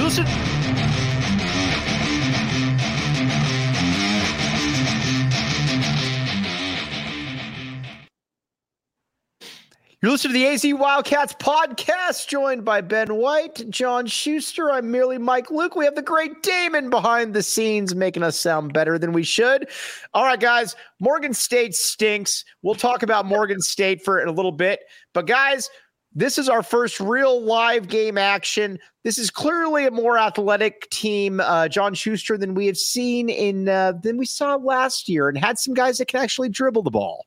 listen. You're listening to the AZ Wildcats podcast, joined by Ben White, John Schuster. I'm merely Mike Luke. We have the great Damon behind the scenes making us sound better than we should. All right, guys, Morgan State stinks. We'll talk about Morgan State for a little bit. But, guys, this is our first real live game action. This is clearly a more athletic team, John Schuster, than we have seen than we saw last year, and had some guys that can actually dribble the ball.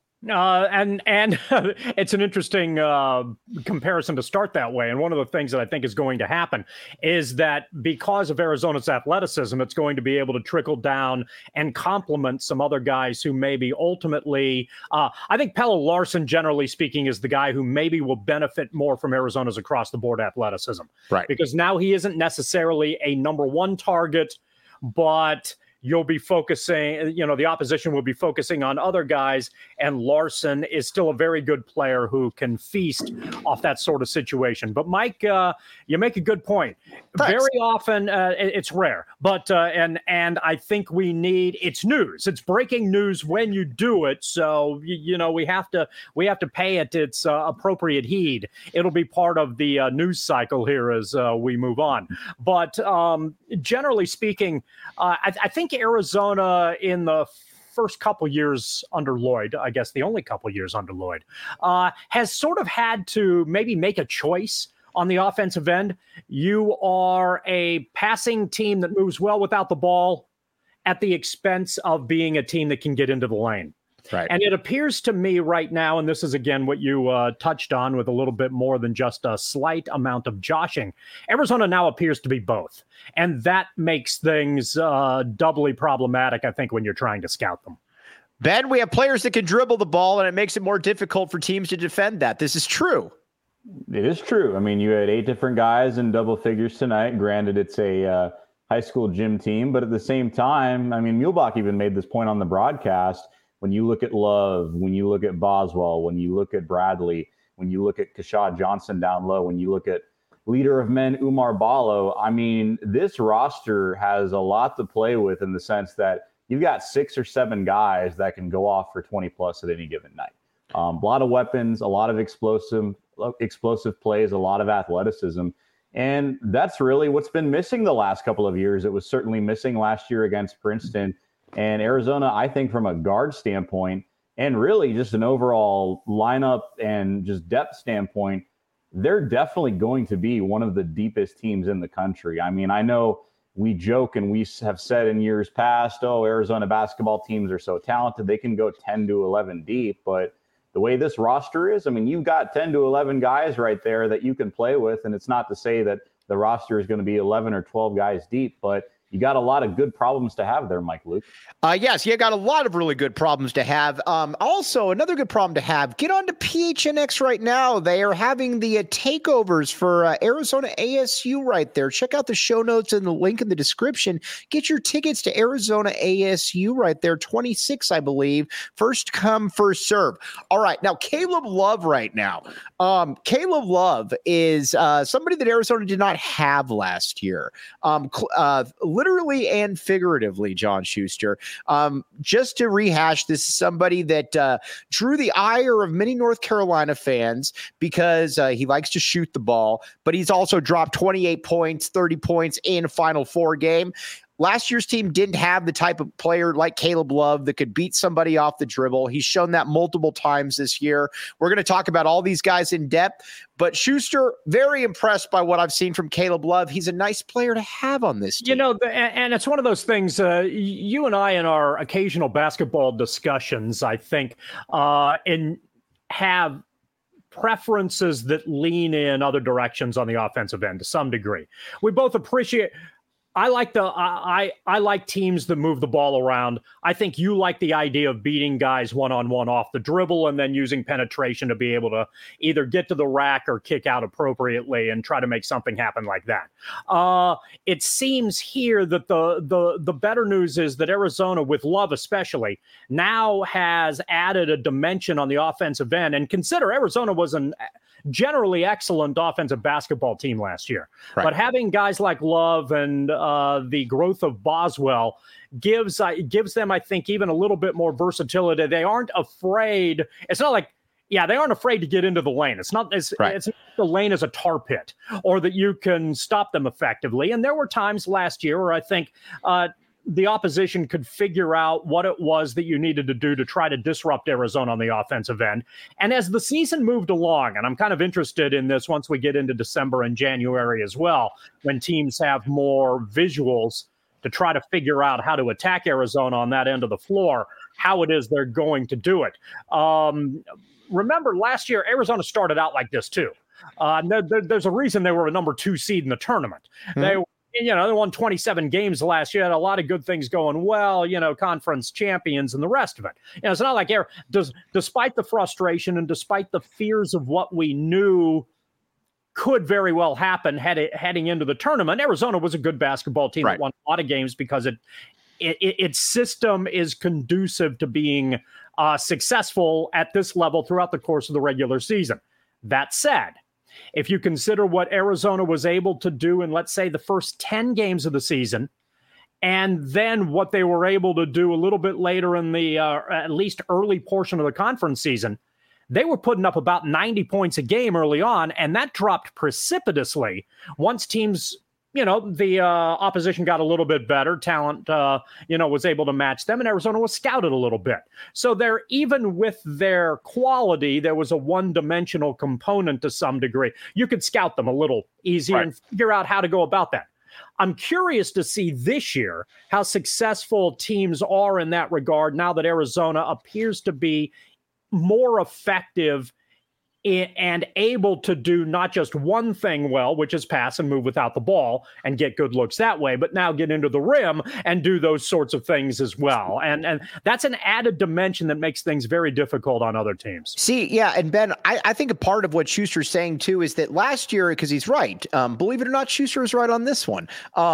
And it's an interesting comparison to start that way. And one of the things that I think is going to happen is that because of Arizona's athleticism, it's going to be able to trickle down and complement some other guys who maybe ultimately, I think Pelle Larsson, generally speaking, is the guy who maybe will benefit more from Arizona's across the board athleticism. Right. Because now he isn't necessarily a number one target, but you'll be focusing, the opposition will be focusing on other guys, and Larsson is still a very good player who can feast off that sort of situation. But Mike, you make a good point. Thanks. Very often, it's rare, but and I think it's news. It's breaking news when you do it. So we have to pay it its appropriate heed. It'll be part of the news cycle here as we move on. But generally speaking, I think Arizona in the first couple years under Lloyd, I guess the only couple years under Lloyd, has sort of had to maybe make a choice on the offensive end. You are a passing team that moves well without the ball at the expense of being a team that can get into the lane. Right. And it appears to me right now, and this is, again, what you touched on with a little bit more than just a slight amount of joshing, Arizona now appears to be both. And that makes things doubly problematic, I think, when you're trying to scout them. Ben, we have players that can dribble the ball, and it makes it more difficult for teams to defend that. This is true. It is true. I mean, you had 8 different guys in double figures tonight. Granted, it's a high school gym team, but at the same time, I mean, Muehlbach even made this point on the broadcast. When you look at Love, when you look at Boswell, when you look at Bradley, when you look at Keshad Johnson down low, when you look at leader of men, Umar Ballo, I mean, this roster has a lot to play with in the sense that you've got 6 or 7 guys that can go off for 20 plus at any given night. A lot of weapons, a lot of explosive plays, a lot of athleticism. And that's really what's been missing the last couple of years. It was certainly missing last year against Princeton. And Arizona, I think from a guard standpoint and really just an overall lineup and just depth standpoint, they're definitely going to be one of the deepest teams in the country. I mean, I know we joke and we have said in years past, Arizona basketball teams are so talented, they can go 10 to 11 deep. But the way this roster is, I mean, you've got 10 to 11 guys right there that you can play with. And it's not to say that the roster is going to be 11 or 12 guys deep, but you got a lot of good problems to have there, Mike Luke. Yes, you got a lot of really good problems to have. Also, another good problem to have, get on to PHNX right now. They are having the takeovers for Arizona ASU right there. Check out the show notes and the link in the description. Get your tickets to Arizona ASU right there, 26, I believe. First come, first serve. All right, now Caleb Love right now. Caleb Love is somebody that Arizona did not have last year. Literally and figuratively, John Schuster. Just to rehash, this is somebody that drew the ire of many North Carolina fans because he likes to shoot the ball, but he's also dropped 28 points, 30 points in a Final Four game. Last year's team didn't have the type of player like Caleb Love that could beat somebody off the dribble. He's shown that multiple times this year. We're going to talk about all these guys in depth, but Schuster, very impressed by what I've seen from Caleb Love. He's a nice player to have on this team. And it's one of those things, you and I in our occasional basketball discussions, I think, have preferences that lean in other directions on the offensive end to some degree. We both appreciate I like teams that move the ball around. I think you like the idea of beating guys one-on-one off the dribble and then using penetration to be able to either get to the rack or kick out appropriately and try to make something happen like that. It seems here that the better news is that Arizona, with Love especially, now has added a dimension on the offensive end. And consider Arizona was generally excellent offensive basketball team last year. Right. But having guys like Love and the growth of Boswell gives them, I think, even a little bit more versatility. They aren't afraid. It's not like, they aren't afraid to get into the lane. It's not it's not the lane as a tar pit, or that you can stop them effectively. And there were times last year where I think the opposition could figure out what it was that you needed to do to try to disrupt Arizona on the offensive end. And as the season moved along, and I'm kind of interested in this once we get into December and January as well, when teams have more visuals to try to figure out how to attack Arizona on that end of the floor, how it is they're going to do it. Remember, last year, Arizona started out like this too. There's a reason they were a number 2 seed in the tournament. Mm-hmm. They won 27 games last year, had a lot of good things going well, conference champions and the rest of it. It's not like despite the frustration and despite the fears of what we knew could very well happen heading into the tournament, Arizona was a good basketball team that won a lot of games because its system is conducive to being successful at this level throughout the course of the regular season. That said, if you consider what Arizona was able to do in, let's say, the first 10 games of the season, and then what they were able to do a little bit later in the at least early portion of the conference season, they were putting up about 90 points a game early on, and that dropped precipitously once teams, the opposition got a little bit better. Talent, was able to match them, and Arizona was scouted a little bit. So even with their quality, there was a one-dimensional component to some degree. You could scout them a little easier and figure out how to go about that. I'm curious to see this year how successful teams are in that regard now that Arizona appears to be more effective and able to do not just one thing well, which is pass and move without the ball and get good looks that way, but now get into the rim and do those sorts of things as well. And that's an added dimension that makes things very difficult on other teams. See, and Ben, I think a part of what Schuster's saying too is that last year, because he's right, believe it or not, Schuster is right on this one,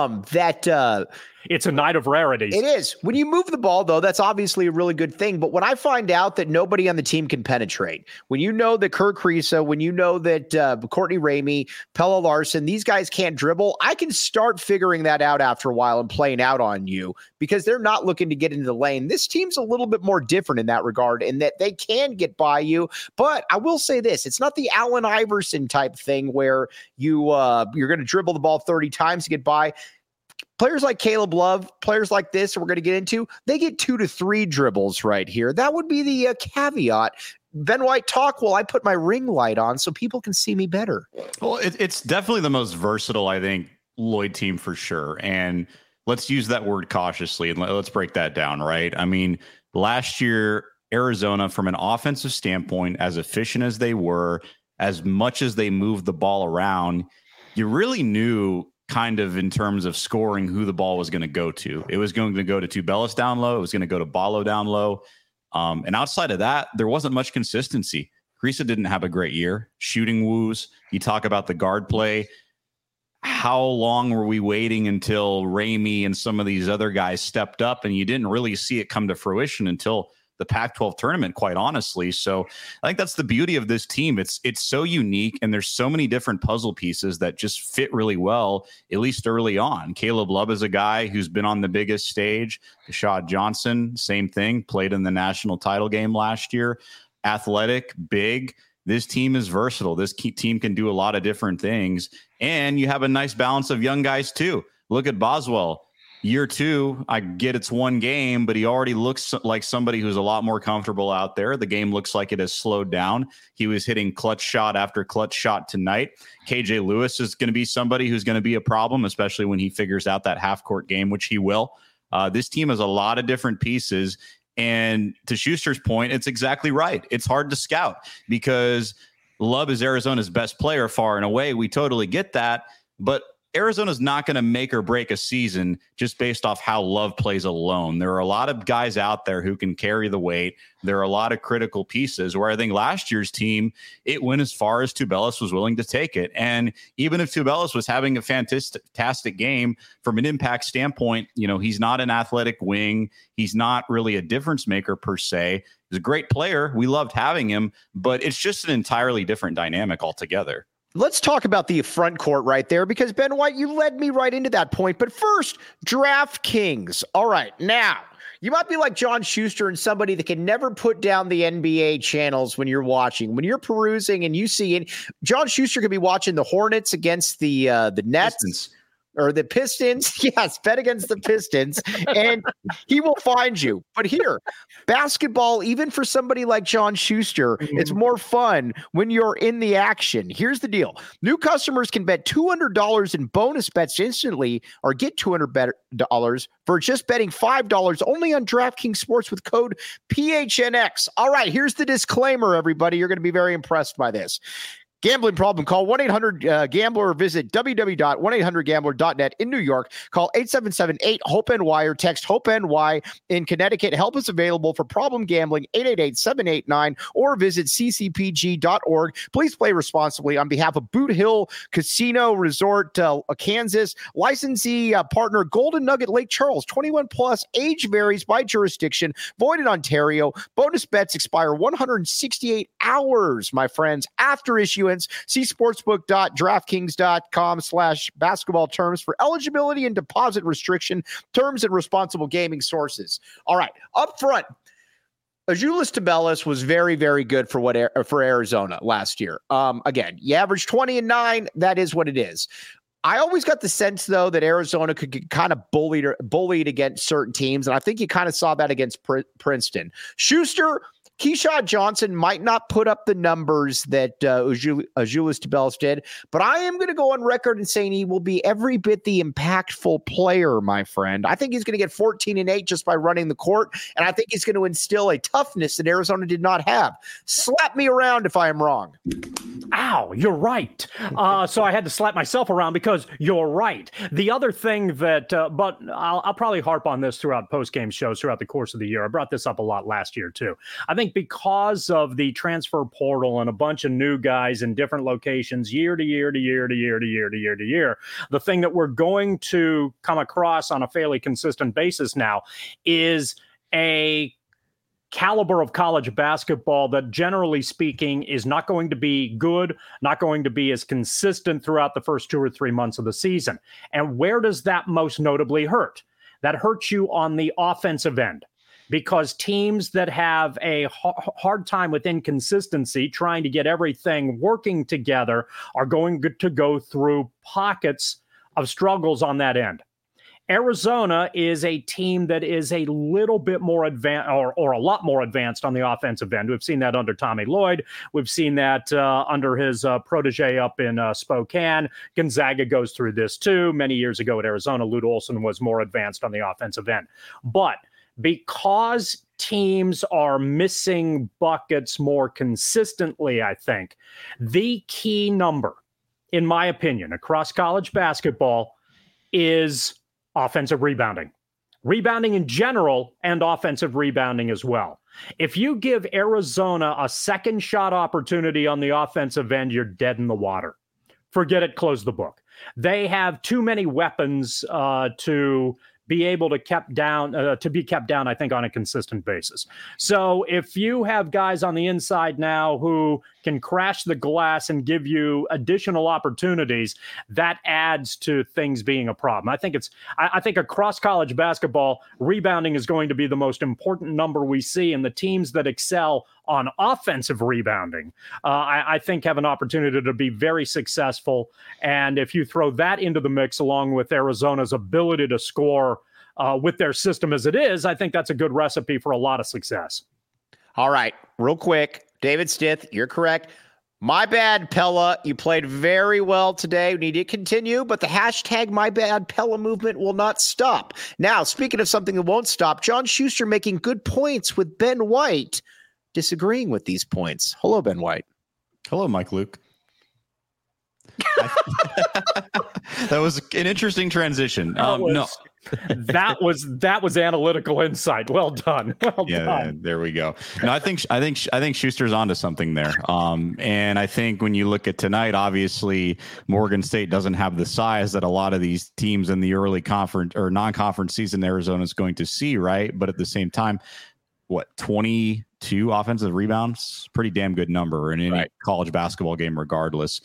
it's a night of rarities. It is. When you move the ball, though, that's obviously a really good thing. But when I find out that nobody on the team can penetrate, when you know that Kerr Kriisa, when you know that Courtney Ramey, Pelle Larsson, these guys can't dribble, I can start figuring that out after a while and playing out on you because they're not looking to get into the lane. This team's a little bit more different in that regard in that they can get by you. But I will say this, it's not the Allen Iverson type thing where you're going to dribble the ball 30 times to get by. Players like Caleb Love, players like this we're going to get into, they get 2 to 3 dribbles right here. That would be the caveat. Ben White, talk while I put my ring light on so people can see me better. Well, it's definitely the most versatile, I think, Lloyd team for sure. And let's use that word cautiously and let's break that down, right? I mean, last year, Arizona, from an offensive standpoint, as efficient as they were, as much as they moved the ball around, you really knew kind of in terms of scoring who the ball was going to go to. It was going to go to Tubelis down low. It was going to go to Ballo down low. And outside of that, there wasn't much consistency. Kriisa didn't have a great year. Shooting woos. You talk about the guard play. How long were we waiting until Ramey and some of these other guys stepped up, and you didn't really see it come to fruition until the Pac-12 tournament, quite honestly. So I think that's the beauty of this team. It's so unique, and there's so many different puzzle pieces that just fit really well, at least early on. Caleb Love is a guy who's been on the biggest stage. Rashad Johnson, same thing, played in the national title game last year. Athletic, big. This team is versatile. This team can do a lot of different things, and you have a nice balance of young guys too. Look at Boswell. Year 2, I get it's one game, but he already looks like somebody who's a lot more comfortable out there. The game looks like it has slowed down. He was hitting clutch shot after clutch shot tonight. KJ Lewis is going to be somebody who's going to be a problem, especially when he figures out that half-court game, which he will. This team has a lot of different pieces. And to Schuster's point, it's exactly right. It's hard to scout because Love is Arizona's best player far and away. We totally get that. But Arizona's not going to make or break a season just based off how Love plays alone. There are a lot of guys out there who can carry the weight. There are a lot of critical pieces where I think last year's team, it went as far as Tubelis was willing to take it. And even if Tubelis was having a fantastic game from an impact standpoint, he's not an athletic wing. He's not really a difference maker per se. He's a great player. We loved having him, but it's just an entirely different dynamic altogether. Let's talk about the front court right there, because Ben White, you led me right into that point. But first, DraftKings. All right, now you might be like John Schuster and somebody that can never put down the NBA channels when you're watching. When you're perusing and you see it, John Schuster could be watching the Hornets against the Nets. Pistons. Or the Pistons. Yes, bet against the Pistons, and he will find you. But here, basketball, even for somebody like John Schuster, it's more fun when you're in the action. Here's the deal. New customers can bet $200 in bonus bets instantly or get $200 for just betting $5 only on DraftKings Sports with code PHNX. All right, here's the disclaimer, everybody. You're going to be very impressed by this. Gambling problem, call 1-800-GAMBLER or visit www.1800gambler.net in New York. Call 877-8-HOPE-NY or text HOPE-NY in Connecticut. Help is available for problem gambling, 888-789, or visit ccpg.org. Please play responsibly on behalf of Boot Hill Casino Resort, Kansas. Licensee partner Golden Nugget Lake Charles, 21 plus, age varies by jurisdiction, void in Ontario. Bonus bets expire 168 hours, my friends, after issuance. See sportsbook.draftkings.com/basketball terms for eligibility and deposit restriction terms and responsible gaming sources. All right, up front, Azuolas Tubelis was very, very good for Arizona last year. Again, you averaged 20 and 9. That is what it is. I always got the sense, though, that Arizona could get kind of bullied against certain teams, and I think you kind of saw that against Princeton. Schuster, Keyshawn Johnson might not put up the numbers that Azuolas Tubelis did, but I am going to go on record and saying he will be every bit the impactful player, my friend. I think he's going to get 14 and 8 just by running the court, and I think he's going to instill a toughness that Arizona did not have. Slap me around if I am wrong. Ow, you're right. So I had to slap myself around because you're right. The other thing that, but I'll probably harp on this throughout post-game shows throughout the course of the year. I brought this up a lot last year, too. I think because of the transfer portal and a bunch of new guys in different locations year to year, the thing that we're going to come across on a fairly consistent basis now is a caliber of college basketball that, generally speaking, is not going to be good, not going to be as consistent throughout the first 2 or 3 months of the season. And where does that most notably hurt? That hurts you on the offensive end, because teams that have a hard time with inconsistency, trying to get everything working together, are going to go through pockets of struggles on that end. Arizona is a team that is a little bit more advanced, or a lot more advanced on the offensive end. We've seen that under Tommy Lloyd. We've seen that under his protege up in Spokane. Gonzaga goes through this too. Many years ago at Arizona, Lute Olson was more advanced on the offensive end. But because teams are missing buckets more consistently, I think the key number, in my opinion, across college basketball is offensive rebounding. Rebounding in general and offensive rebounding as well. If you give Arizona a second shot opportunity on the offensive end, you're dead in the water. Forget it, close the book. They have too many weapons to be able to be kept down, I think, on a consistent basis. So if you have guys on the inside now who can crash the glass and give you additional opportunities, that adds to things being a problem. I think across college basketball, rebounding is going to be the most important number we see, and the teams that excel on offensive rebounding, I think have an opportunity to be very successful. And if you throw that into the mix along with Arizona's ability to score with their system as it is, I think that's a good recipe for a lot of success. All right, real quick, David Stith, you're correct. My bad, Pella. You played very well today. We need to continue, but the hashtag My Bad Pella movement will not stop. Now, speaking of something that won't stop, John Schuster making good points with Ben White disagreeing with these points. Hello, Ben White. Hello, Mike Luke. That was an interesting transition. That was analytical insight. Well done. Well done. There we go. No, I think Schuster's onto something there. And I think when you look at tonight, obviously Morgan State doesn't have the size that a lot of these teams in the early conference or non-conference season Arizona is going to see, right? But at the same time, 22 offensive rebounds, pretty damn good number in any college basketball game, regardless.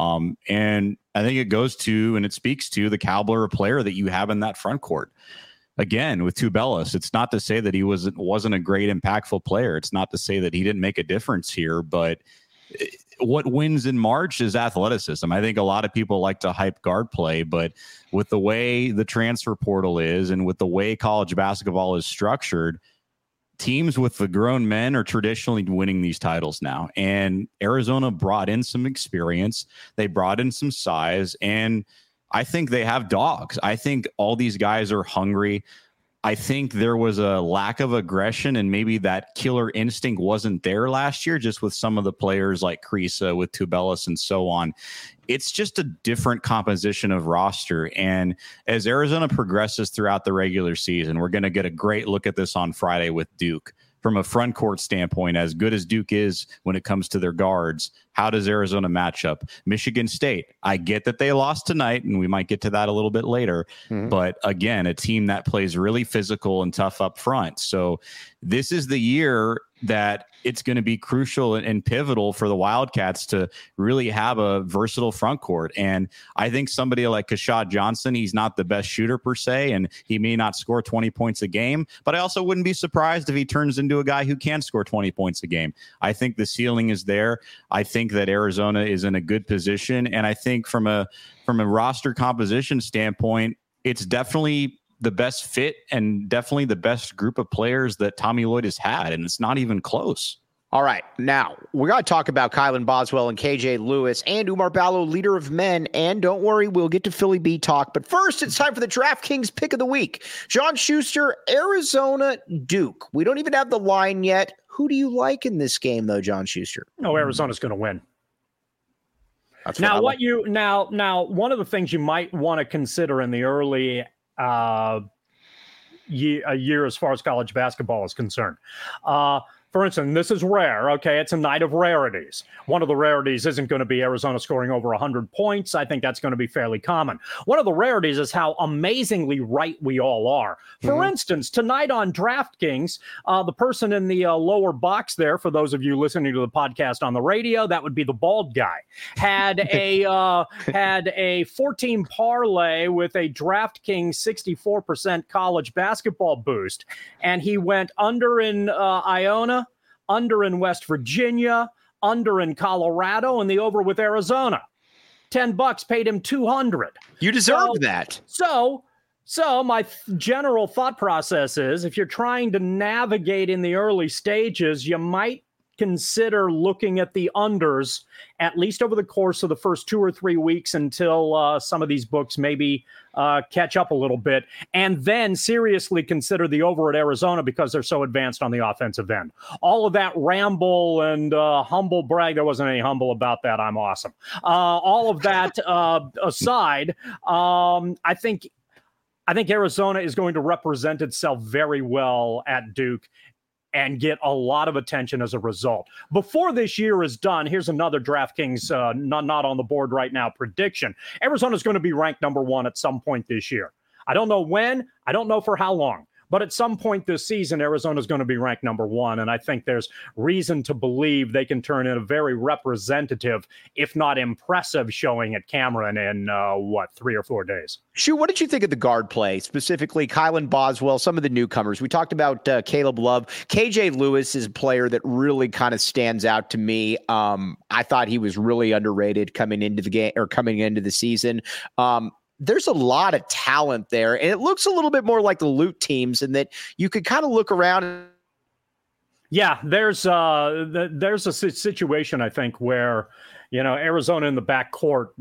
And I think it goes to, and it speaks to the caliber of player that you have in that front court. Again, with Tubelis, it's not to say that he wasn't a great, impactful player. It's not to say that he didn't make a difference here, but what wins in March is athleticism. I think a lot of people like to hype guard play, but with the way the transfer portal is and with the way college basketball is structured, teams with the grown men are traditionally winning these titles now. And Arizona brought in some experience. They brought in some size, and I think they have dogs. I think all these guys are hungry. I think there was a lack of aggression, and maybe that killer instinct wasn't there last year, just with some of the players like Kriisa, with Tubelis and so on. It's just a different composition of roster. And as Arizona progresses throughout the regular season, we're going to get a great look at this on Friday with Duke. From a front court standpoint, as good as Duke is when it comes to their guards, how does Arizona match up? Michigan State, I get that they lost tonight, and we might get to that a little bit later. But again, a team that plays really physical and tough up front. So this is the year that it's going to be crucial and pivotal for the Wildcats to really have a versatile front court. And I think somebody like Keshad Johnson, he's not the best shooter per se, and he may not score 20 points a game, but I also wouldn't be surprised if he turns into a guy who can score 20 points a game. I think the ceiling is there. I think that Arizona is in a good position. And I think from a roster composition standpoint, it's definitely the best fit and definitely the best group of players that Tommy Lloyd has had, and it's not even close. All right, now we got to talk about Kylan Boswell and KJ Lewis and Oumar Ballo, leader of men. And don't worry, we'll get to Philly B talk. But first, it's time for the DraftKings pick of the week. John Schuster, Arizona, Duke. We don't even have the line yet. Who do you like in this game, though, John Schuster? No, Arizona's going to win. Now, one of the things you might want to consider in the early year as far as college basketball is concerned. For instance, this is rare. Okay, it's a night of rarities. One of the rarities isn't going to be Arizona scoring over 100 points. I think that's going to be fairly common. One of the rarities is how amazingly right we all are. For instance, tonight on DraftKings, the person in the lower box there, for those of you listening to the podcast on the radio, that would be the bald guy, had a 14 parlay with a DraftKings 64% college basketball boost, and he went under in Iona, under in West Virginia, under in Colorado, and the over with Arizona. $10 paid him $200. You deserved that. So my general thought process is, if you're trying to navigate in the early stages, you might consider looking at the unders at least over the course of the first 2 or 3 weeks until some of these books maybe catch up a little bit, and then seriously consider the over at Arizona because they're so advanced on the offensive end. All of that ramble and humble brag, there wasn't any humble about that. I'm awesome. All of that aside, I think Arizona is going to represent itself very well at Duke and get a lot of attention as a result. Before this year is done, here's another DraftKings, not on the board right now, prediction. Arizona's going to be ranked number 1 at some point this year. I don't know when, I don't know for how long, but at some point this season, Arizona's going to be ranked number 1, and I think there's reason to believe they can turn in a very representative, if not impressive, showing at Cameron in, 3 or 4 days. Shu, what did you think of the guard play, specifically Kylan Boswell, some of the newcomers? We talked about Caleb Love. KJ Lewis is a player that really kind of stands out to me. I thought he was really underrated coming into the game or coming into the season. There's a lot of talent there, and it looks a little bit more like the Loot teams in that you could kind of look around. Yeah, there's a situation, I think, where, Arizona in the backcourt,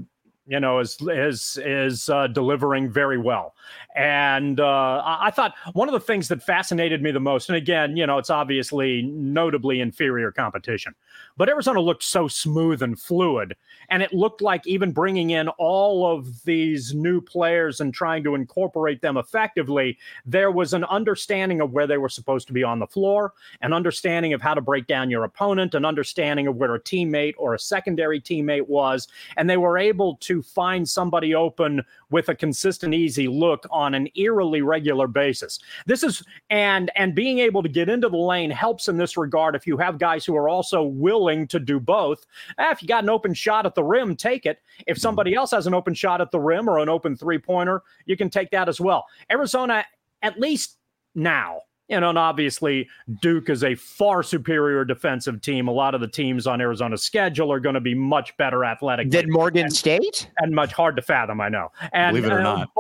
is delivering very well. And I thought one of the things that fascinated me the most, and again, it's obviously notably inferior competition, but Arizona looked so smooth and fluid. And it looked like even bringing in all of these new players and trying to incorporate them effectively, there was an understanding of where they were supposed to be on the floor, an understanding of how to break down your opponent, an understanding of where a teammate or a secondary teammate was. And they were able to find somebody open with a consistent, easy look on an eerily regular basis. This is, and being able to get into the lane helps in this regard if you have guys who are also willing to do both. If you got an open shot at the rim, take it. If somebody else has an open shot at the rim or an open three-pointer, you can take that as well. Arizona, at least now, and obviously Duke is a far superior defensive team. A lot of the teams on Arizona's schedule are going to be much better athletically than Morgan State, and much hard to fathom, I know. And, believe it or not.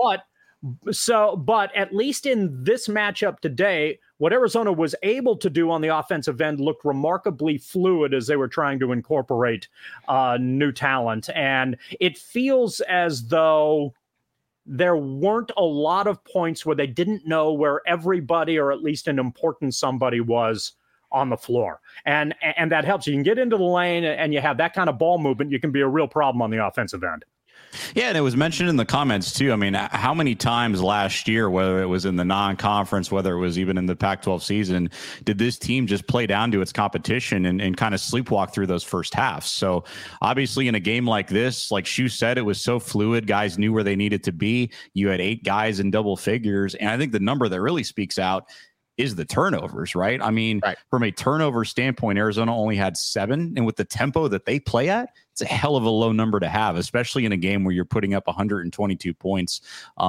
But at least in this matchup today, what Arizona was able to do on the offensive end looked remarkably fluid as they were trying to incorporate new talent. And it feels as though there weren't a lot of points where they didn't know where everybody, or at least an important somebody, was on the floor. And that helps. You can get into the lane and you have that kind of ball movement. You can be a real problem on the offensive end. Yeah, and it was mentioned in the comments, too. I mean, how many times last year, whether it was in the non-conference, whether it was even in the Pac-12 season, did this team just play down to its competition and kind of sleepwalk through those first halves? So obviously in a game like this, like Shu said, it was so fluid. Guys knew where they needed to be. You had 8 guys in double figures. And I think the number that really speaks out is the turnovers, right? I mean, From a turnover standpoint, Arizona only had 7. And with the tempo that they play at, it's a hell of a low number to have, especially in a game where you're putting up 122 points.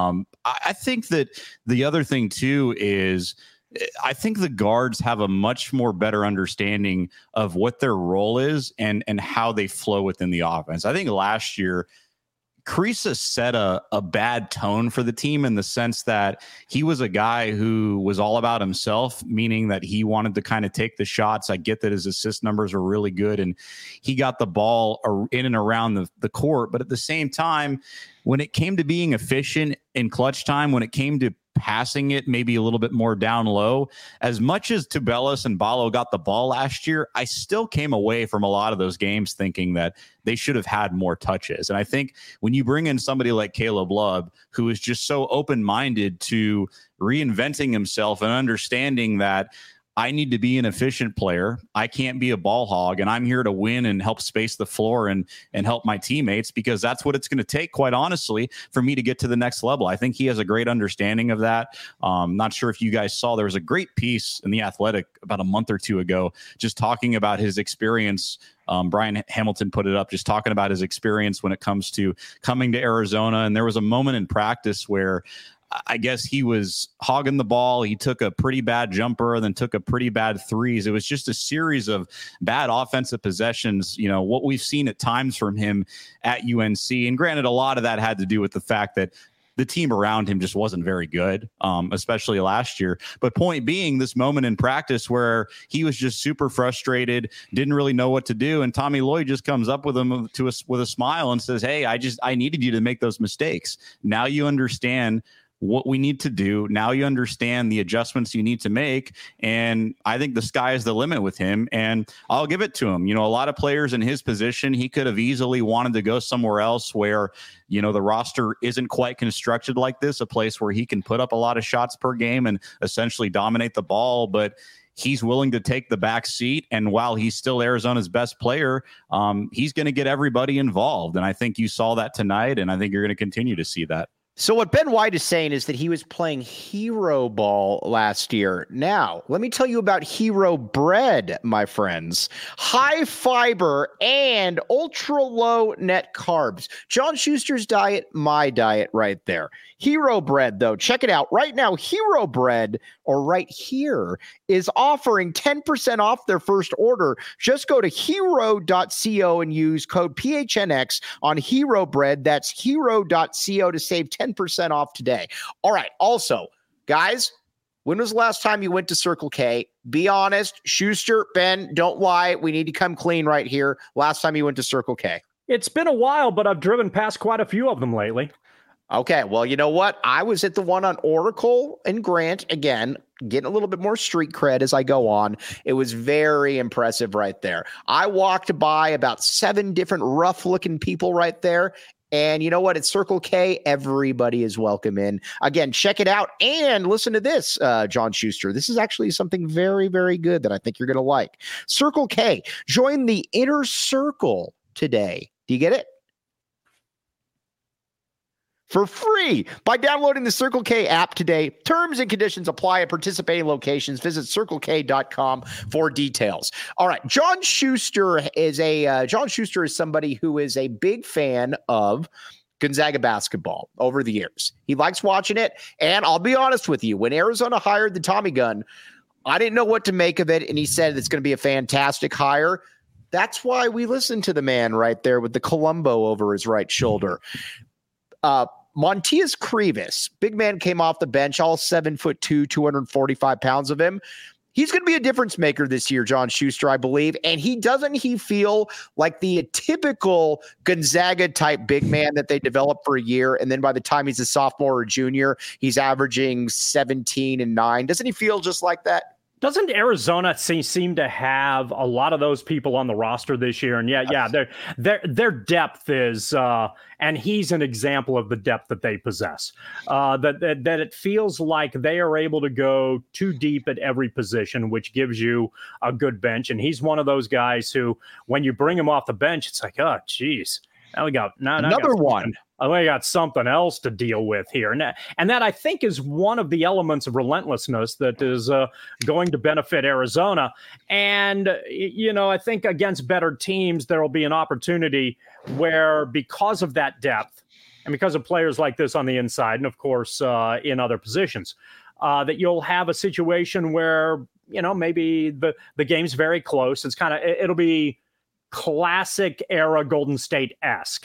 I think that the other thing, too, is I think the guards have a much more better understanding of what their role is and how they flow within the offense. I think last year, Kriisa set a bad tone for the team in the sense that he was a guy who was all about himself, meaning that he wanted to kind of take the shots. I get that his assist numbers are really good and he got the ball in and around the court. But at the same time, when it came to being efficient in clutch time, when it came to passing it maybe a little bit more down low, as much as Tubelis and Ballo got the ball last year, I still came away from a lot of those games thinking that they should have had more touches. And I think when you bring in somebody like Caleb Love, who is just so open-minded to reinventing himself and understanding that I need to be an efficient player. I can't be a ball hog, and I'm here to win and help space the floor and help my teammates, because that's what it's going to take, quite honestly, for me to get to the next level. I think he has a great understanding of that. Not sure if you guys saw, there was a great piece in The Athletic about a month or two ago, just talking about his experience. Brian Hamilton put it up, just talking about his experience when it comes to coming to Arizona. And there was a moment in practice where I guess he was hogging the ball. He took a pretty bad jumper and then took a pretty bad threes. It was just a series of bad offensive possessions, what we've seen at times from him at UNC. And granted, a lot of that had to do with the fact that the team around him just wasn't very good, especially last year. But point being, this moment in practice where he was just super frustrated, didn't really know what to do. And Tommy Lloyd just comes up with him with a smile and says, "Hey, I needed you to make those mistakes. Now you understand what we need to do. Now you understand the adjustments you need to make." And I think the sky is the limit with him. And I'll give it to him. A lot of players in his position, he could have easily wanted to go somewhere else where, the roster isn't quite constructed like this, a place where he can put up a lot of shots per game and essentially dominate the ball. But he's willing to take the back seat. And while he's still Arizona's best player, he's going to get everybody involved. And I think you saw that tonight. And I think you're going to continue to see that. So what Ben White is saying is that he was playing hero ball last year. Now, let me tell you about Hero Bread, my friends. High fiber and ultra low net carbs. John Schuster's diet, my diet right there. Hero Bread, though, check it out. Right now, Hero Bread, or right here, is offering 10% off their first order. Just go to hero.co and use code PHNX on Hero Bread. That's hero.co to save 10% off today. All right. Also, guys, when was the last time you went to Circle K? Be honest. Schuster, Ben, don't lie. We need to come clean right here. Last time you went to Circle K. It's been a while, but I've driven past quite a few of them lately. Okay, well, you know what? I was at the one on Oracle and Grant, again, getting a little bit more street cred as I go on. It was very impressive right there. I walked by about 7 different rough-looking people right there. And you know what? At Circle K, everybody is welcome in. Again, check it out and listen to this, John Schuster. This is actually something very, very good that I think you're going to like. Circle K, join the inner circle today. Do you get it? For free by downloading the Circle K app today. Terms and conditions apply at participating locations. Visit circlek.com for details. All right, John Schuster is somebody who is a big fan of Gonzaga basketball over the years. He likes watching it, and I'll be honest with you, when Arizona hired the Tommy gun, I didn't know what to make of it, and he said it's going to be a fantastic hire. That's why we listened to the man right there with the Columbo over his right shoulder. Montias Krivas, big man, came off the bench, all 7'2", 245 pounds of him. He's going to be a difference maker this year, John Schuster, I believe. And doesn't he feel like the typical Gonzaga type big man that they develop for a year, and then by the time he's a sophomore or junior, he's averaging 17 and 9. Doesn't he feel just like that? Doesn't Arizona seem to have a lot of those people on the roster this year? And their depth is, and he's an example of the depth that they possess. That it feels like they are able to go too deep at every position, which gives you a good bench. And he's one of those guys who, when you bring him off the bench, it's like, oh, geez, now we got another one. I got something else to deal with here. And that I think is one of the elements of relentlessness that is going to benefit Arizona. And, I think against better teams, there will be an opportunity where, because of that depth and because of players like this on the inside, and of course in other positions, that you'll have a situation where, maybe the game's very close. It'll be classic era Golden State-esque,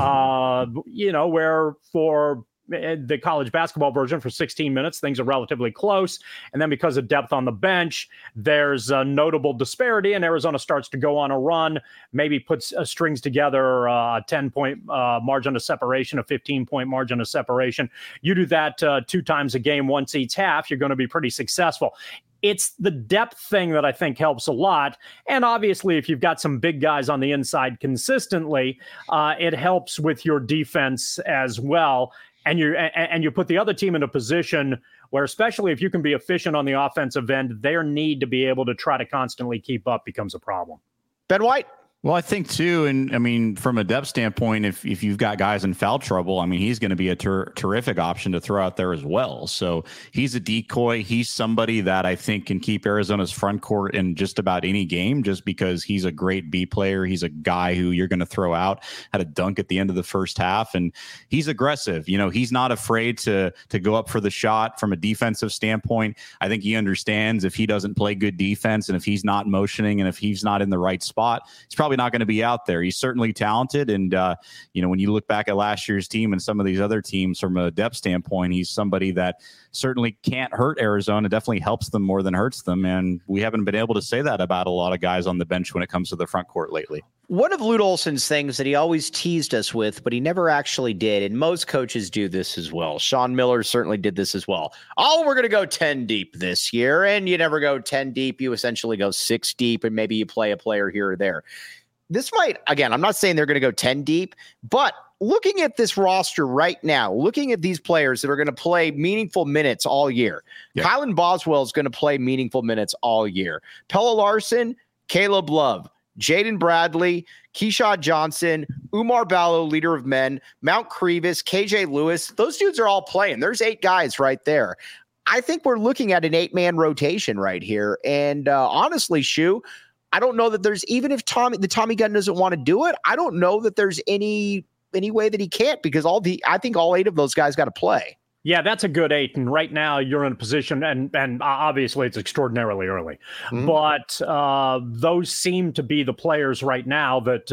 where for the college basketball version, for 16 minutes, things are relatively close. And then because of depth on the bench, there's a notable disparity, and Arizona starts to go on a run, maybe puts strings together a 10-point margin of separation, a 15-point margin of separation. You do that 2 times a game, once each half, you're going to be pretty successful. It's the depth thing that I think helps a lot. And obviously, if you've got some big guys on the inside consistently, it helps with your defense as well. And you put the other team in a position where, especially if you can be efficient on the offensive end, their need to be able to try to constantly keep up becomes a problem. Ben White? Well, I think too, and I mean, from a depth standpoint, if you've got guys in foul trouble, I mean, he's going to be a terrific option to throw out there as well. So he's a decoy. He's somebody that I think can keep Arizona's front court in just about any game, just because he's a great B player. He's a guy who you're going to throw out, had a dunk at the end of the first half, and he's aggressive. He's not afraid to go up for the shot. From a defensive standpoint, I think he understands if he doesn't play good defense, and if he's not motioning, and if he's not in the right spot, he's probably not going to be out there. He's certainly talented. And, when you look back at last year's team and some of these other teams from a depth standpoint, he's somebody that certainly can't hurt Arizona, definitely helps them more than hurts them. And we haven't been able to say that about a lot of guys on the bench when it comes to the front court lately. One of Lute Olson's things that he always teased us with, but he never actually did, and most coaches do this as well. Sean Miller certainly did this as well. Oh, we're going to go 10 deep this year, and you never go 10 deep. You essentially go 6 deep, and maybe you play a player here or there. This might, again, I'm not saying they're going to go 10 deep, but looking at this roster right now, looking at these players that are going to play meaningful minutes all year, yeah. Kylan Boswell is going to play meaningful minutes all year. Pelle Larsson, Caleb Love, Jaden Bradley, Keyshawn Johnson, Umar Ballo, leader of men, Mount Krivas, KJ Lewis. Those dudes are all playing. There's 8 guys right there. I think we're looking at an 8-man rotation right here. And honestly, Shu, I don't know that there's, even if the Tommy gun doesn't want to do it, I don't know that there's any way that he can't, because I think all 8 of those guys got to play. Yeah, that's a good 8. And right now you're in a position, and obviously it's extraordinarily early, but those seem to be the players right now that,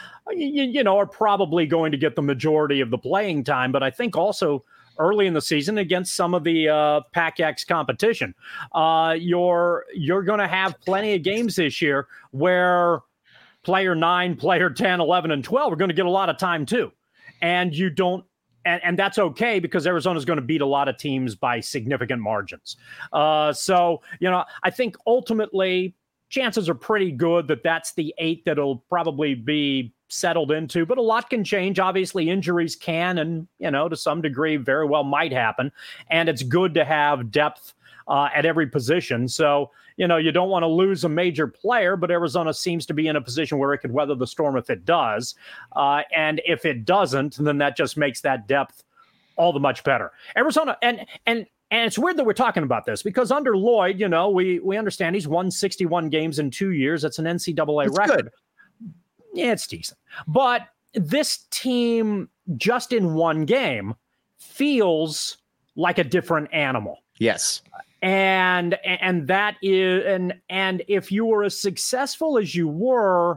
are probably going to get the majority of the playing time. But I think also early in the season against some of the Pac-X competition, you're going to have plenty of games this year where player 9, player 10, 11, and 12 are going to get a lot of time too. And you don't, and that's okay because Arizona's going to beat a lot of teams by significant margins. So, I think ultimately chances are pretty good that that's the 8 that'll probably be settled into, but a lot can change. Obviously, injuries can, and, to some degree, very well might happen. And it's good to have depth at every position. So, you don't want to lose a major player, but Arizona seems to be in a position where it could weather the storm if it does. And if it doesn't, then that just makes that depth all the much better. Arizona, and it's weird that we're talking about this because under Lloyd, we understand he's won 61 games in 2 years. That's an NCAA record. Good. Yeah, it's decent. But this team, just in one game, feels like a different animal. Yes. And that is, and if you were as successful as you were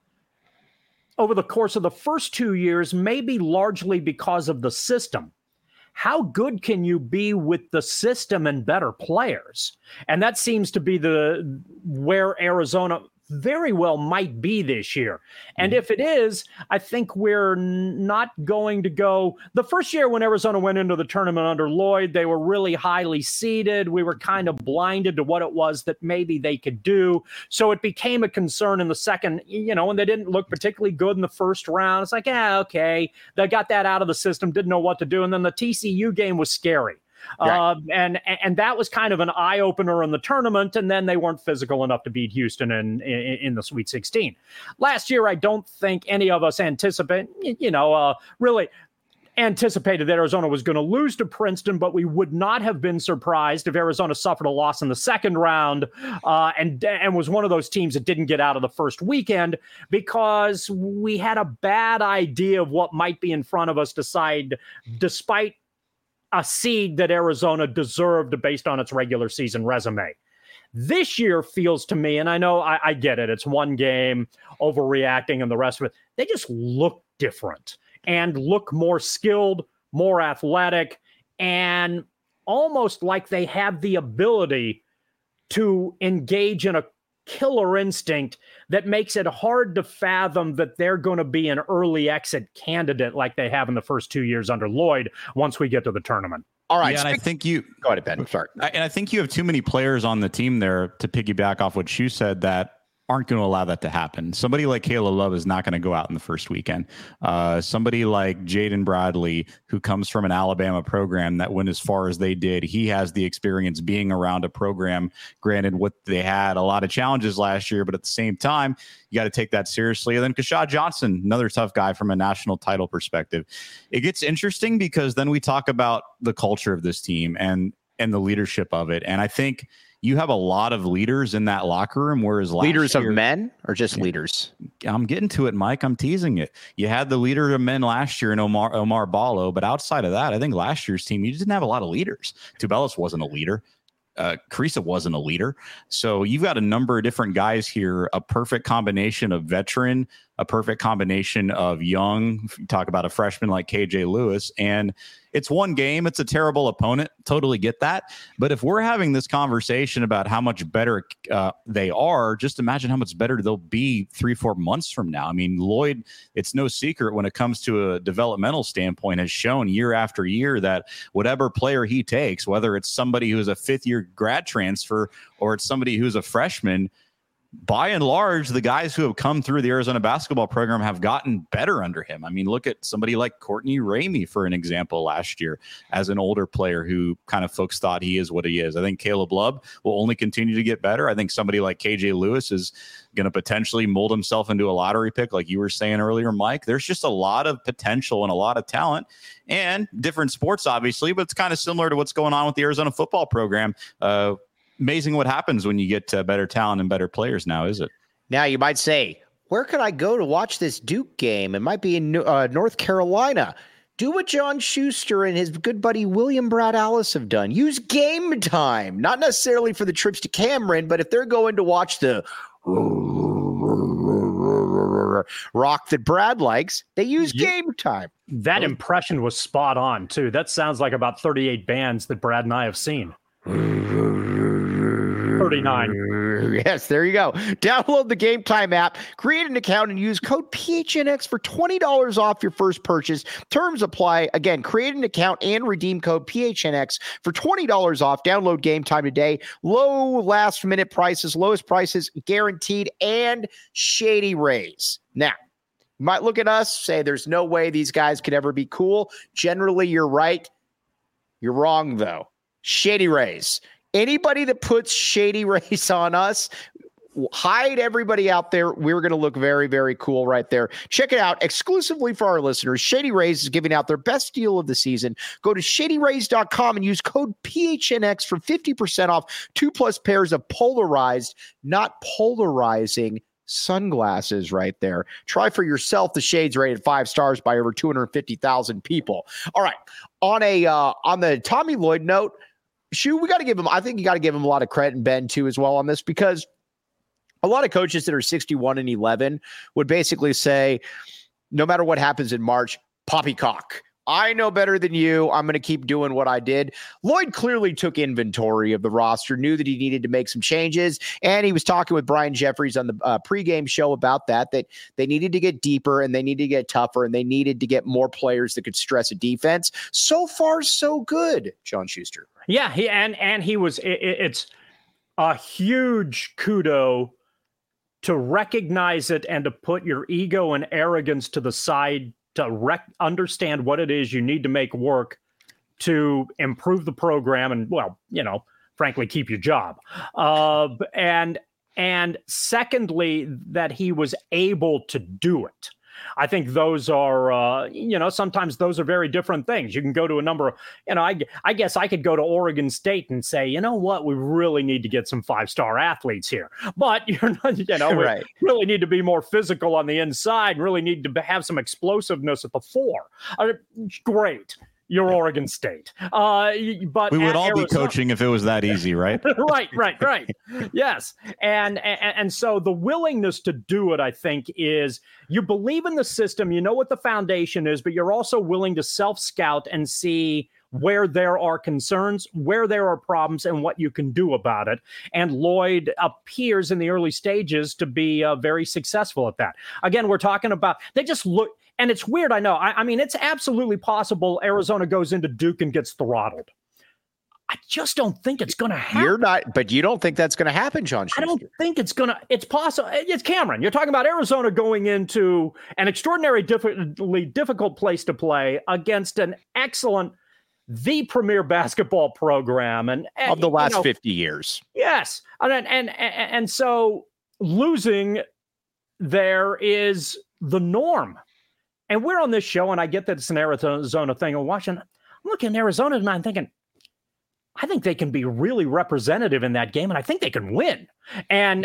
over the course of the first 2 years, maybe largely because of the system, how good can you be with the system and better players? And that seems to be where Arizona very well might be this year. And if it is, I think we're not going to go. The first year when Arizona went into the tournament under Lloyd, they were really highly seeded. We were kind of blinded to what it was that maybe they could do. So it became a concern in the second, and they didn't look particularly good in the first round. It's like, okay, they got that out of the system, didn't know what to do. And then the TCU game was scary. Right. And that was kind of an eye opener in the tournament, and then they weren't physical enough to beat Houston in the Sweet 16. Last year, I don't think any of us really anticipated that Arizona was going to lose to Princeton, but we would not have been surprised if Arizona suffered a loss in the second round and was one of those teams that didn't get out of the first weekend because we had a bad idea of what might be in front of us despite a seed that Arizona deserved based on its regular season resume. This year feels to me, and I know I get it, it's one game, overreacting and the rest of it. They just look different and look more skilled, more athletic, and almost like they have the ability to engage in a killer instinct that makes it hard to fathom that they're going to be an early exit candidate like they have in the first 2 years under Lloyd once we get to the tournament. All right. Yeah, and I think go ahead, Ben. I'm sorry. And I think you have too many players on the team there to piggyback off what Shu said that aren't going to allow that to happen. Somebody like Caleb Love is not going to go out in the first weekend. Somebody like Jaden Bradley, who comes from an Alabama program that went as far as they did, he has the experience being around a program. Granted, what they had a lot of challenges last year, but at the same time, you got to take that seriously. And then Keshad Johnson, another tough guy from a national title perspective. It gets interesting because then we talk about the culture of this team and the leadership of it. And I think you have a lot of leaders in that locker room, whereas leaders of men or just leaders? I'm getting to it, Mike. I'm teasing it. You had the leader of men last year in Omar Ballo, but outside of that, I think last year's team, you didn't have a lot of leaders. Tubelis wasn't a leader. Carissa wasn't a leader. So you've got a number of different guys here, a perfect combination of veteran, a perfect combination of young. You talk about a freshman like KJ Lewis, and it's one game. It's a terrible opponent. Totally get that. But if we're having this conversation about how much better they are, just imagine how much better they'll be 3-4 months from now. I mean, Lloyd, it's no secret when it comes to a developmental standpoint, has shown year after year that whatever player he takes, whether it's somebody who's a fifth-year grad transfer or it's somebody who's a freshman, by and large, the guys who have come through the Arizona basketball program have gotten better under him. I mean, look at somebody like Courtney Ramey, for an example, last year as an older player who kind of folks thought he is what he is. I think Caleb Love will only continue to get better. I think somebody like KJ Lewis is going to potentially mold himself into a lottery pick, like you were saying earlier, Mike. There's just a lot of potential and a lot of talent, and different sports, obviously, but it's kind of similar to what's going on with the Arizona football program. Amazing what happens when you get better talent and better players now, is it? Now, you might say, where could I go to watch this Duke game? It might be in North Carolina. Do what John Schuster and his good buddy William Brad Alice have done. Use Game Time. Not necessarily for the trips to Cameron, but if they're going to watch the rock that Brad likes, they use Game Time. That impression was spot on, too. That sounds like about 38 bands that Brad and I have seen. 39. Yes, there you go. Download the Game Time app, create an account, and use code PHNX for $20 off your first purchase. Terms apply. Again, create an account and redeem code PHNX for $20 off. Download Game Time today. Low last-minute prices, lowest prices guaranteed, and Shady Rays. Now, you might look at us, say there's no way these guys could ever be cool. Generally, you're right. You're wrong, though. Shady Rays. Anybody that puts Shady Rays on us, hide everybody out there. We're going to look very, very cool right there. Check it out exclusively for our listeners. Shady Rays is giving out their best deal of the season. Go to shadyrays.com and use code PHNX for 50% off 2+ pairs of polarized, not polarizing sunglasses right there. Try for yourself. The shades rated 5 stars by over 250,000 people. All right. On the Tommy Lloyd note, we got to give him, I think you got to give him a lot of credit, and Ben too as well on this, because a lot of coaches that are 61-11 would basically say, no matter what happens in March, poppycock. I know better than you. I'm going to keep doing what I did. Lloyd clearly took inventory of the roster, knew that he needed to make some changes, and he was talking with Brian Jeffries on the pregame show about that they needed to get deeper and they needed to get tougher and they needed to get more players that could stress a defense. So far, so good, John Schuster. Yeah, it's a huge kudo to recognize it and to put your ego and arrogance to the side, to understand what it is you need to make work to improve the program and, well, frankly, keep your job. And secondly, that he was able to do it. I think those are, sometimes those are very different things. You can go to a number of, I guess I could go to Oregon State and say, you know what, we really need to get some 5-star athletes here. But you're not, right. We really need to be more physical on the inside, really need to have some explosiveness at the 4. Great. You're Oregon State. But we would all be coaching if it was that easy, right? Right. Yes. And so the willingness to do it, I think, is you believe in the system, you know what the foundation is, but you're also willing to self-scout and see where there are concerns, where there are problems, and what you can do about it. And Lloyd appears in the early stages to be very successful at that. Again, we're talking about, they just look, and it's weird, I know. I mean, it's absolutely possible Arizona goes into Duke and gets throttled. I just don't think it's going to happen. But you don't think that's going to happen, John Schuster? I don't think it's going to. It's possible. It's Cameron. You're talking about Arizona going into an extraordinarily difficult place to play against an excellent, the premier basketball program and of the last 50 years. Yes, and so losing there is the norm. And we're on this show, and I get that it's an Arizona thing. I'm watching. I'm looking at Arizona tonight and thinking, I think they can be really representative in that game, and I think they can win. And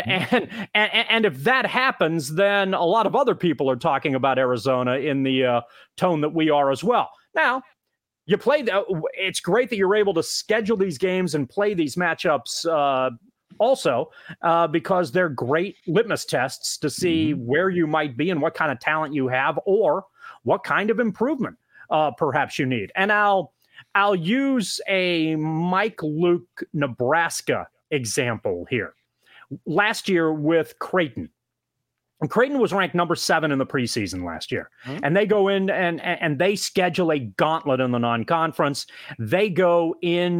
if that happens, then a lot of other people are talking about Arizona in the tone that we are as well. Now, you play. It's great that you're able to schedule these games and play these matchups also because they're great litmus tests to see where you might be and what kind of talent you have or what kind of improvement perhaps you need. And I'll use a Mike Luke, Nebraska example here. Last year with Creighton. And Creighton was ranked number 7 in the preseason last year. And they go in and they schedule a gauntlet in the non-conference. They go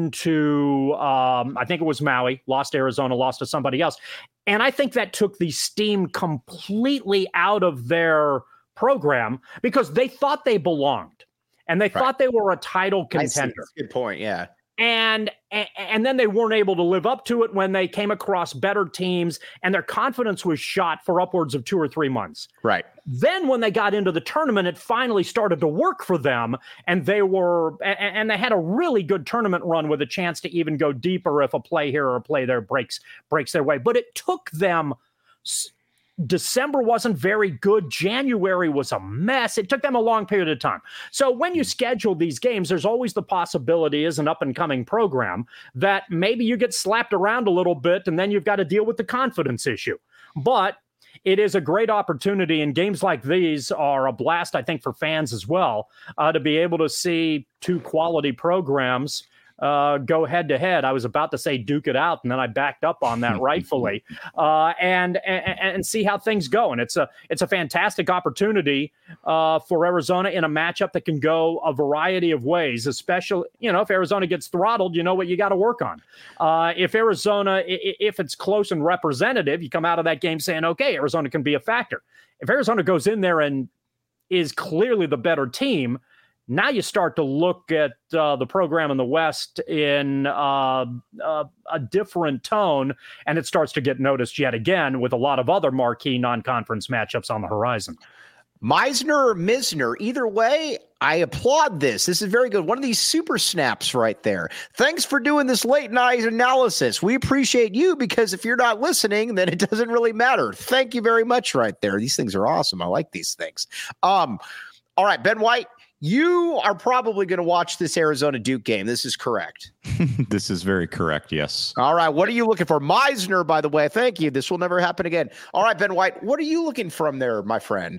into, I think it was Maui, lost to Arizona, lost to somebody else. And I think that took the steam completely out of their program because they thought they belonged. And they thought they were a title contender. That's a good point, yeah. And then they weren't able to live up to it when they came across better teams, and their confidence was shot for upwards of 2 or 3 months. Right. Then when they got into the tournament, it finally started to work for them, and they had a really good tournament run with a chance to even go deeper if a play here or a play there breaks their way. But it took them. December wasn't very good. January was a mess. It took them a long period of time. So when you schedule these games, there's always the possibility as an up-and-coming program that maybe you get slapped around a little bit and then you've got to deal with the confidence issue. But it is a great opportunity, and games like these are a blast, I think, for fans as well, to be able to see 2 quality programs go head to head. I was about to say duke it out, and then I backed up on that rightfully, and see how things go. And it's a fantastic opportunity for Arizona in a matchup that can go a variety of ways, especially, if Arizona gets throttled, you know what you got to work on. If Arizona, if it's close and representative, you come out of that game saying, okay, Arizona can be a factor. If Arizona goes in there and is clearly the better team, now you start to look at the program in the West in a different tone, and it starts to get noticed yet again with a lot of other marquee non-conference matchups on the horizon. Meisner or Misner, either way, I applaud this. This is very good. One of these super snaps right there. Thanks for doing this late night analysis. We appreciate you, because if you're not listening, then it doesn't really matter. Thank you very much right there. These things are awesome. I like these things. All right, Ben White, you are probably going to watch this Arizona Duke game. This is correct. This is very correct, yes. All right, what are you looking for? Meisner, by the way, thank you. This will never happen again. All right, Ben White, what are you looking from there, my friend?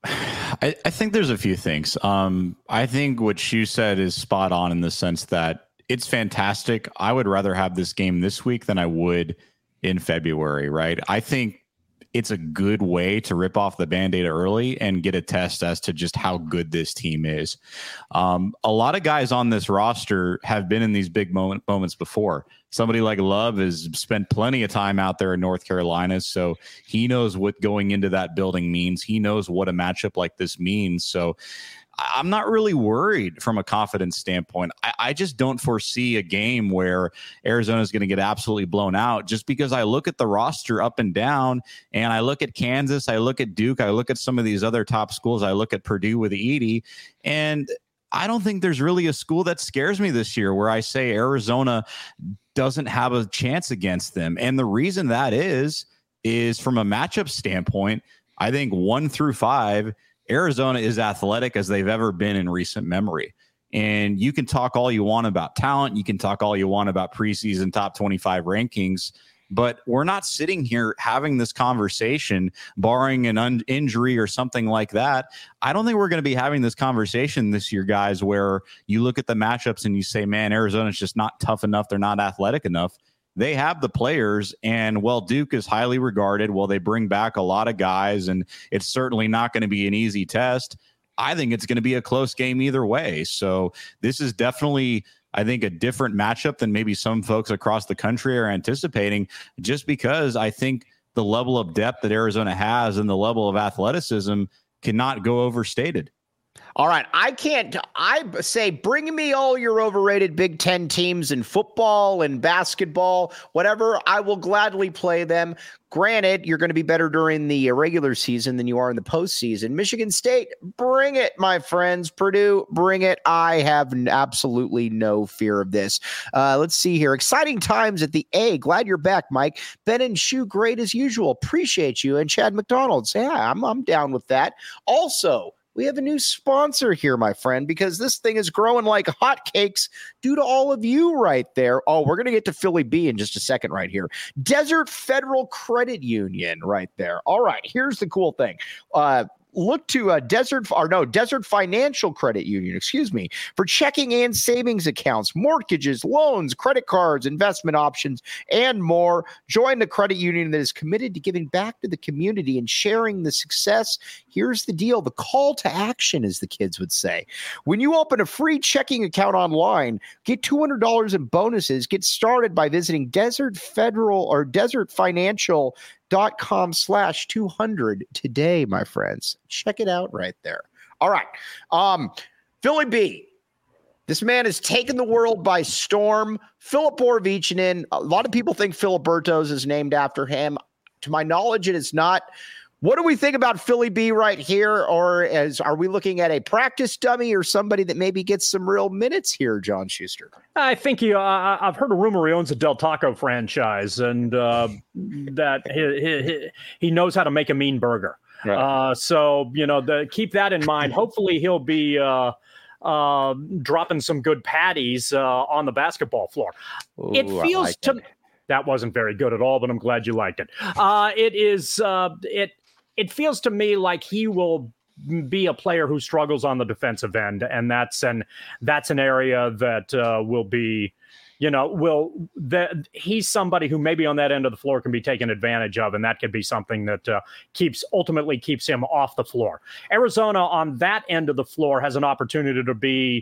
I think there's a few things. I think what you said is spot on in the sense that it's fantastic. I would rather have this game this week than I would in February, right? I think it's a good way to rip off the Band-Aid early and get a test as to just how good this team is. A lot of guys on this roster have been in these big moments before. Somebody like Love has spent plenty of time out there in North Carolina, so he knows what going into that building means. He knows what a matchup like this means. So I'm not really worried from a confidence standpoint. I just don't foresee a game where Arizona is going to get absolutely blown out, just because I look at the roster up and down, and I look at Kansas, I look at Duke, I look at some of these other top schools, I look at Purdue with Edey, and I don't think there's really a school that scares me this year where I say Arizona doesn't have a chance against them. And the reason that is from a matchup standpoint, I think 1 through 5, Arizona is athletic as they've ever been in recent memory. And you can talk all you want about talent. You can talk all you want about preseason top 25 rankings, but we're not sitting here having this conversation, barring an injury or something like that. I don't think we're going to be having this conversation this year, guys, where you look at the matchups and you say, man, Arizona's just not tough enough. They're not athletic enough. They have the players, and while Duke is highly regarded, while they bring back a lot of guys, and it's certainly not going to be an easy test, I think it's going to be a close game either way. So this is definitely, I think, a different matchup than maybe some folks across the country are anticipating, just because I think the level of depth that Arizona has and the level of athleticism cannot go overstated. All right, I say bring me all your overrated Big Ten teams in football and basketball, whatever. I will gladly play them. Granted, you're going to be better during the regular season than you are in the postseason. Michigan State, bring it, my friends. Purdue, bring it. I have absolutely no fear of this. Let's see here. Exciting times at the A. Glad you're back, Mike. Ben and Shu, great as usual. Appreciate you. And Chad McDonald, say hi. I'm down with that. Also, we have a new sponsor here, my friend, because this thing is growing like hotcakes due to all of you right there. Oh, we're going to get to Philly B in just a second right here. Desert Federal Credit Union right there. All right, here's the cool thing. Look to Desert Financial Credit Union, for checking and savings accounts, mortgages, loans, credit cards, investment options, and more. Join the credit union that is committed to giving back to the community and sharing the success. Here's the deal. The call to action, as the kids would say. When you open a free checking account online, get $200 in bonuses. Get started by visiting Desert Financial.com/200 today, my friends. Check it out right there. All right. Philly B. This man has taken the world by storm. Filip Borovichinin. A lot of people think Filiberto's is named after him. To my knowledge, it is not. What do we think about Philly B right here? Or are we looking at a practice dummy or somebody that maybe gets some real minutes here, John Schuster? I think I've heard a rumor he owns a Del Taco franchise, and that he knows how to make a mean burger. Right. So, keep that in mind. Hopefully he'll be dropping some good patties on the basketball floor. Ooh, it feels that wasn't very good at all, but I'm glad you liked it. It feels to me like he will be a player who struggles on the defensive end, and that's an area that will be, he's somebody who maybe on that end of the floor can be taken advantage of, and that could be something that ultimately keeps him off the floor. Arizona on that end of the floor has an opportunity to be,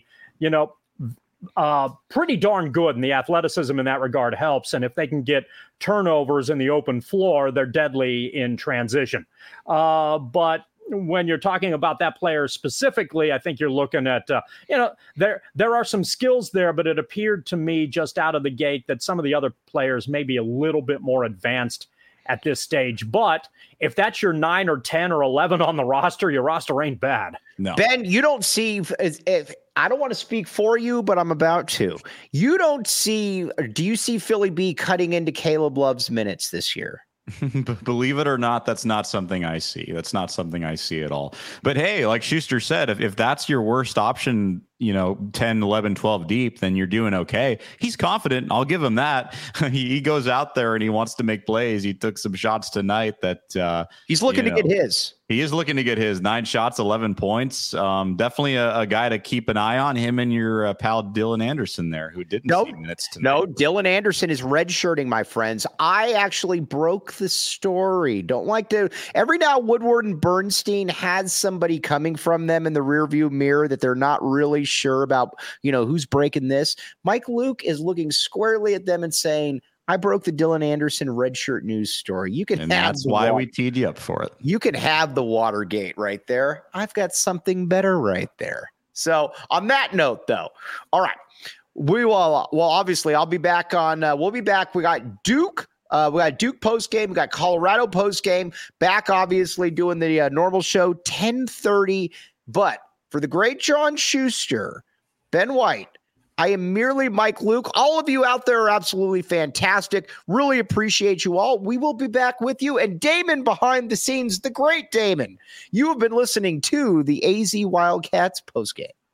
pretty darn good, and the athleticism in that regard helps. And if they can get turnovers in the open floor, they're deadly in transition. But when you're talking about that player specifically, I think you're looking at, there are some skills there, but it appeared to me just out of the gate that some of the other players may be a little bit more advanced at this stage. But if that's your 9 or 10 or 11 on the roster, your roster ain't bad. No. Ben, you don't see, if I don't want to speak for you, but I'm about to. You don't see, or do you see Philly B cutting into Caleb Love's minutes this year? Believe it or not, that's not something I see. That's not something I see at all. But hey, like Schuster said, if that's your worst option, 10, 11, 12 deep, then you're doing okay. He's confident. I'll give him that. He goes out there and he wants to make plays. He took some shots tonight that he's looking to get his. He is looking to get his 9 shots, 11 points. Definitely a guy to keep an eye on, him and your pal Dylan Anderson there, who didn't see minutes tonight. No, Dylan Anderson is redshirting, my friends. I actually broke the story. Don't like to. Every now Woodward and Bernstein has somebody coming from them in the rearview mirror that they're not really sure about, who's breaking this. Mike Luke is looking squarely at them and saying, I broke the Dylan Anderson redshirt news story. You can, and that's why we teed you up for it. You can have the Watergate right there. I've got something better right there. So on that note, though, all right, we will. Well, obviously, I'll be back on. We'll be back. We got Duke. We got Duke post game. We got Colorado post game. Back, obviously, doing the normal show 10:30. But for the great John Schuster, Ben White, I am merely Mike Luke. All of you out there are absolutely fantastic. Really appreciate you all. We will be back with you. And Damon behind the scenes, the great Damon. You have been listening to the AZ Wildcats postgame.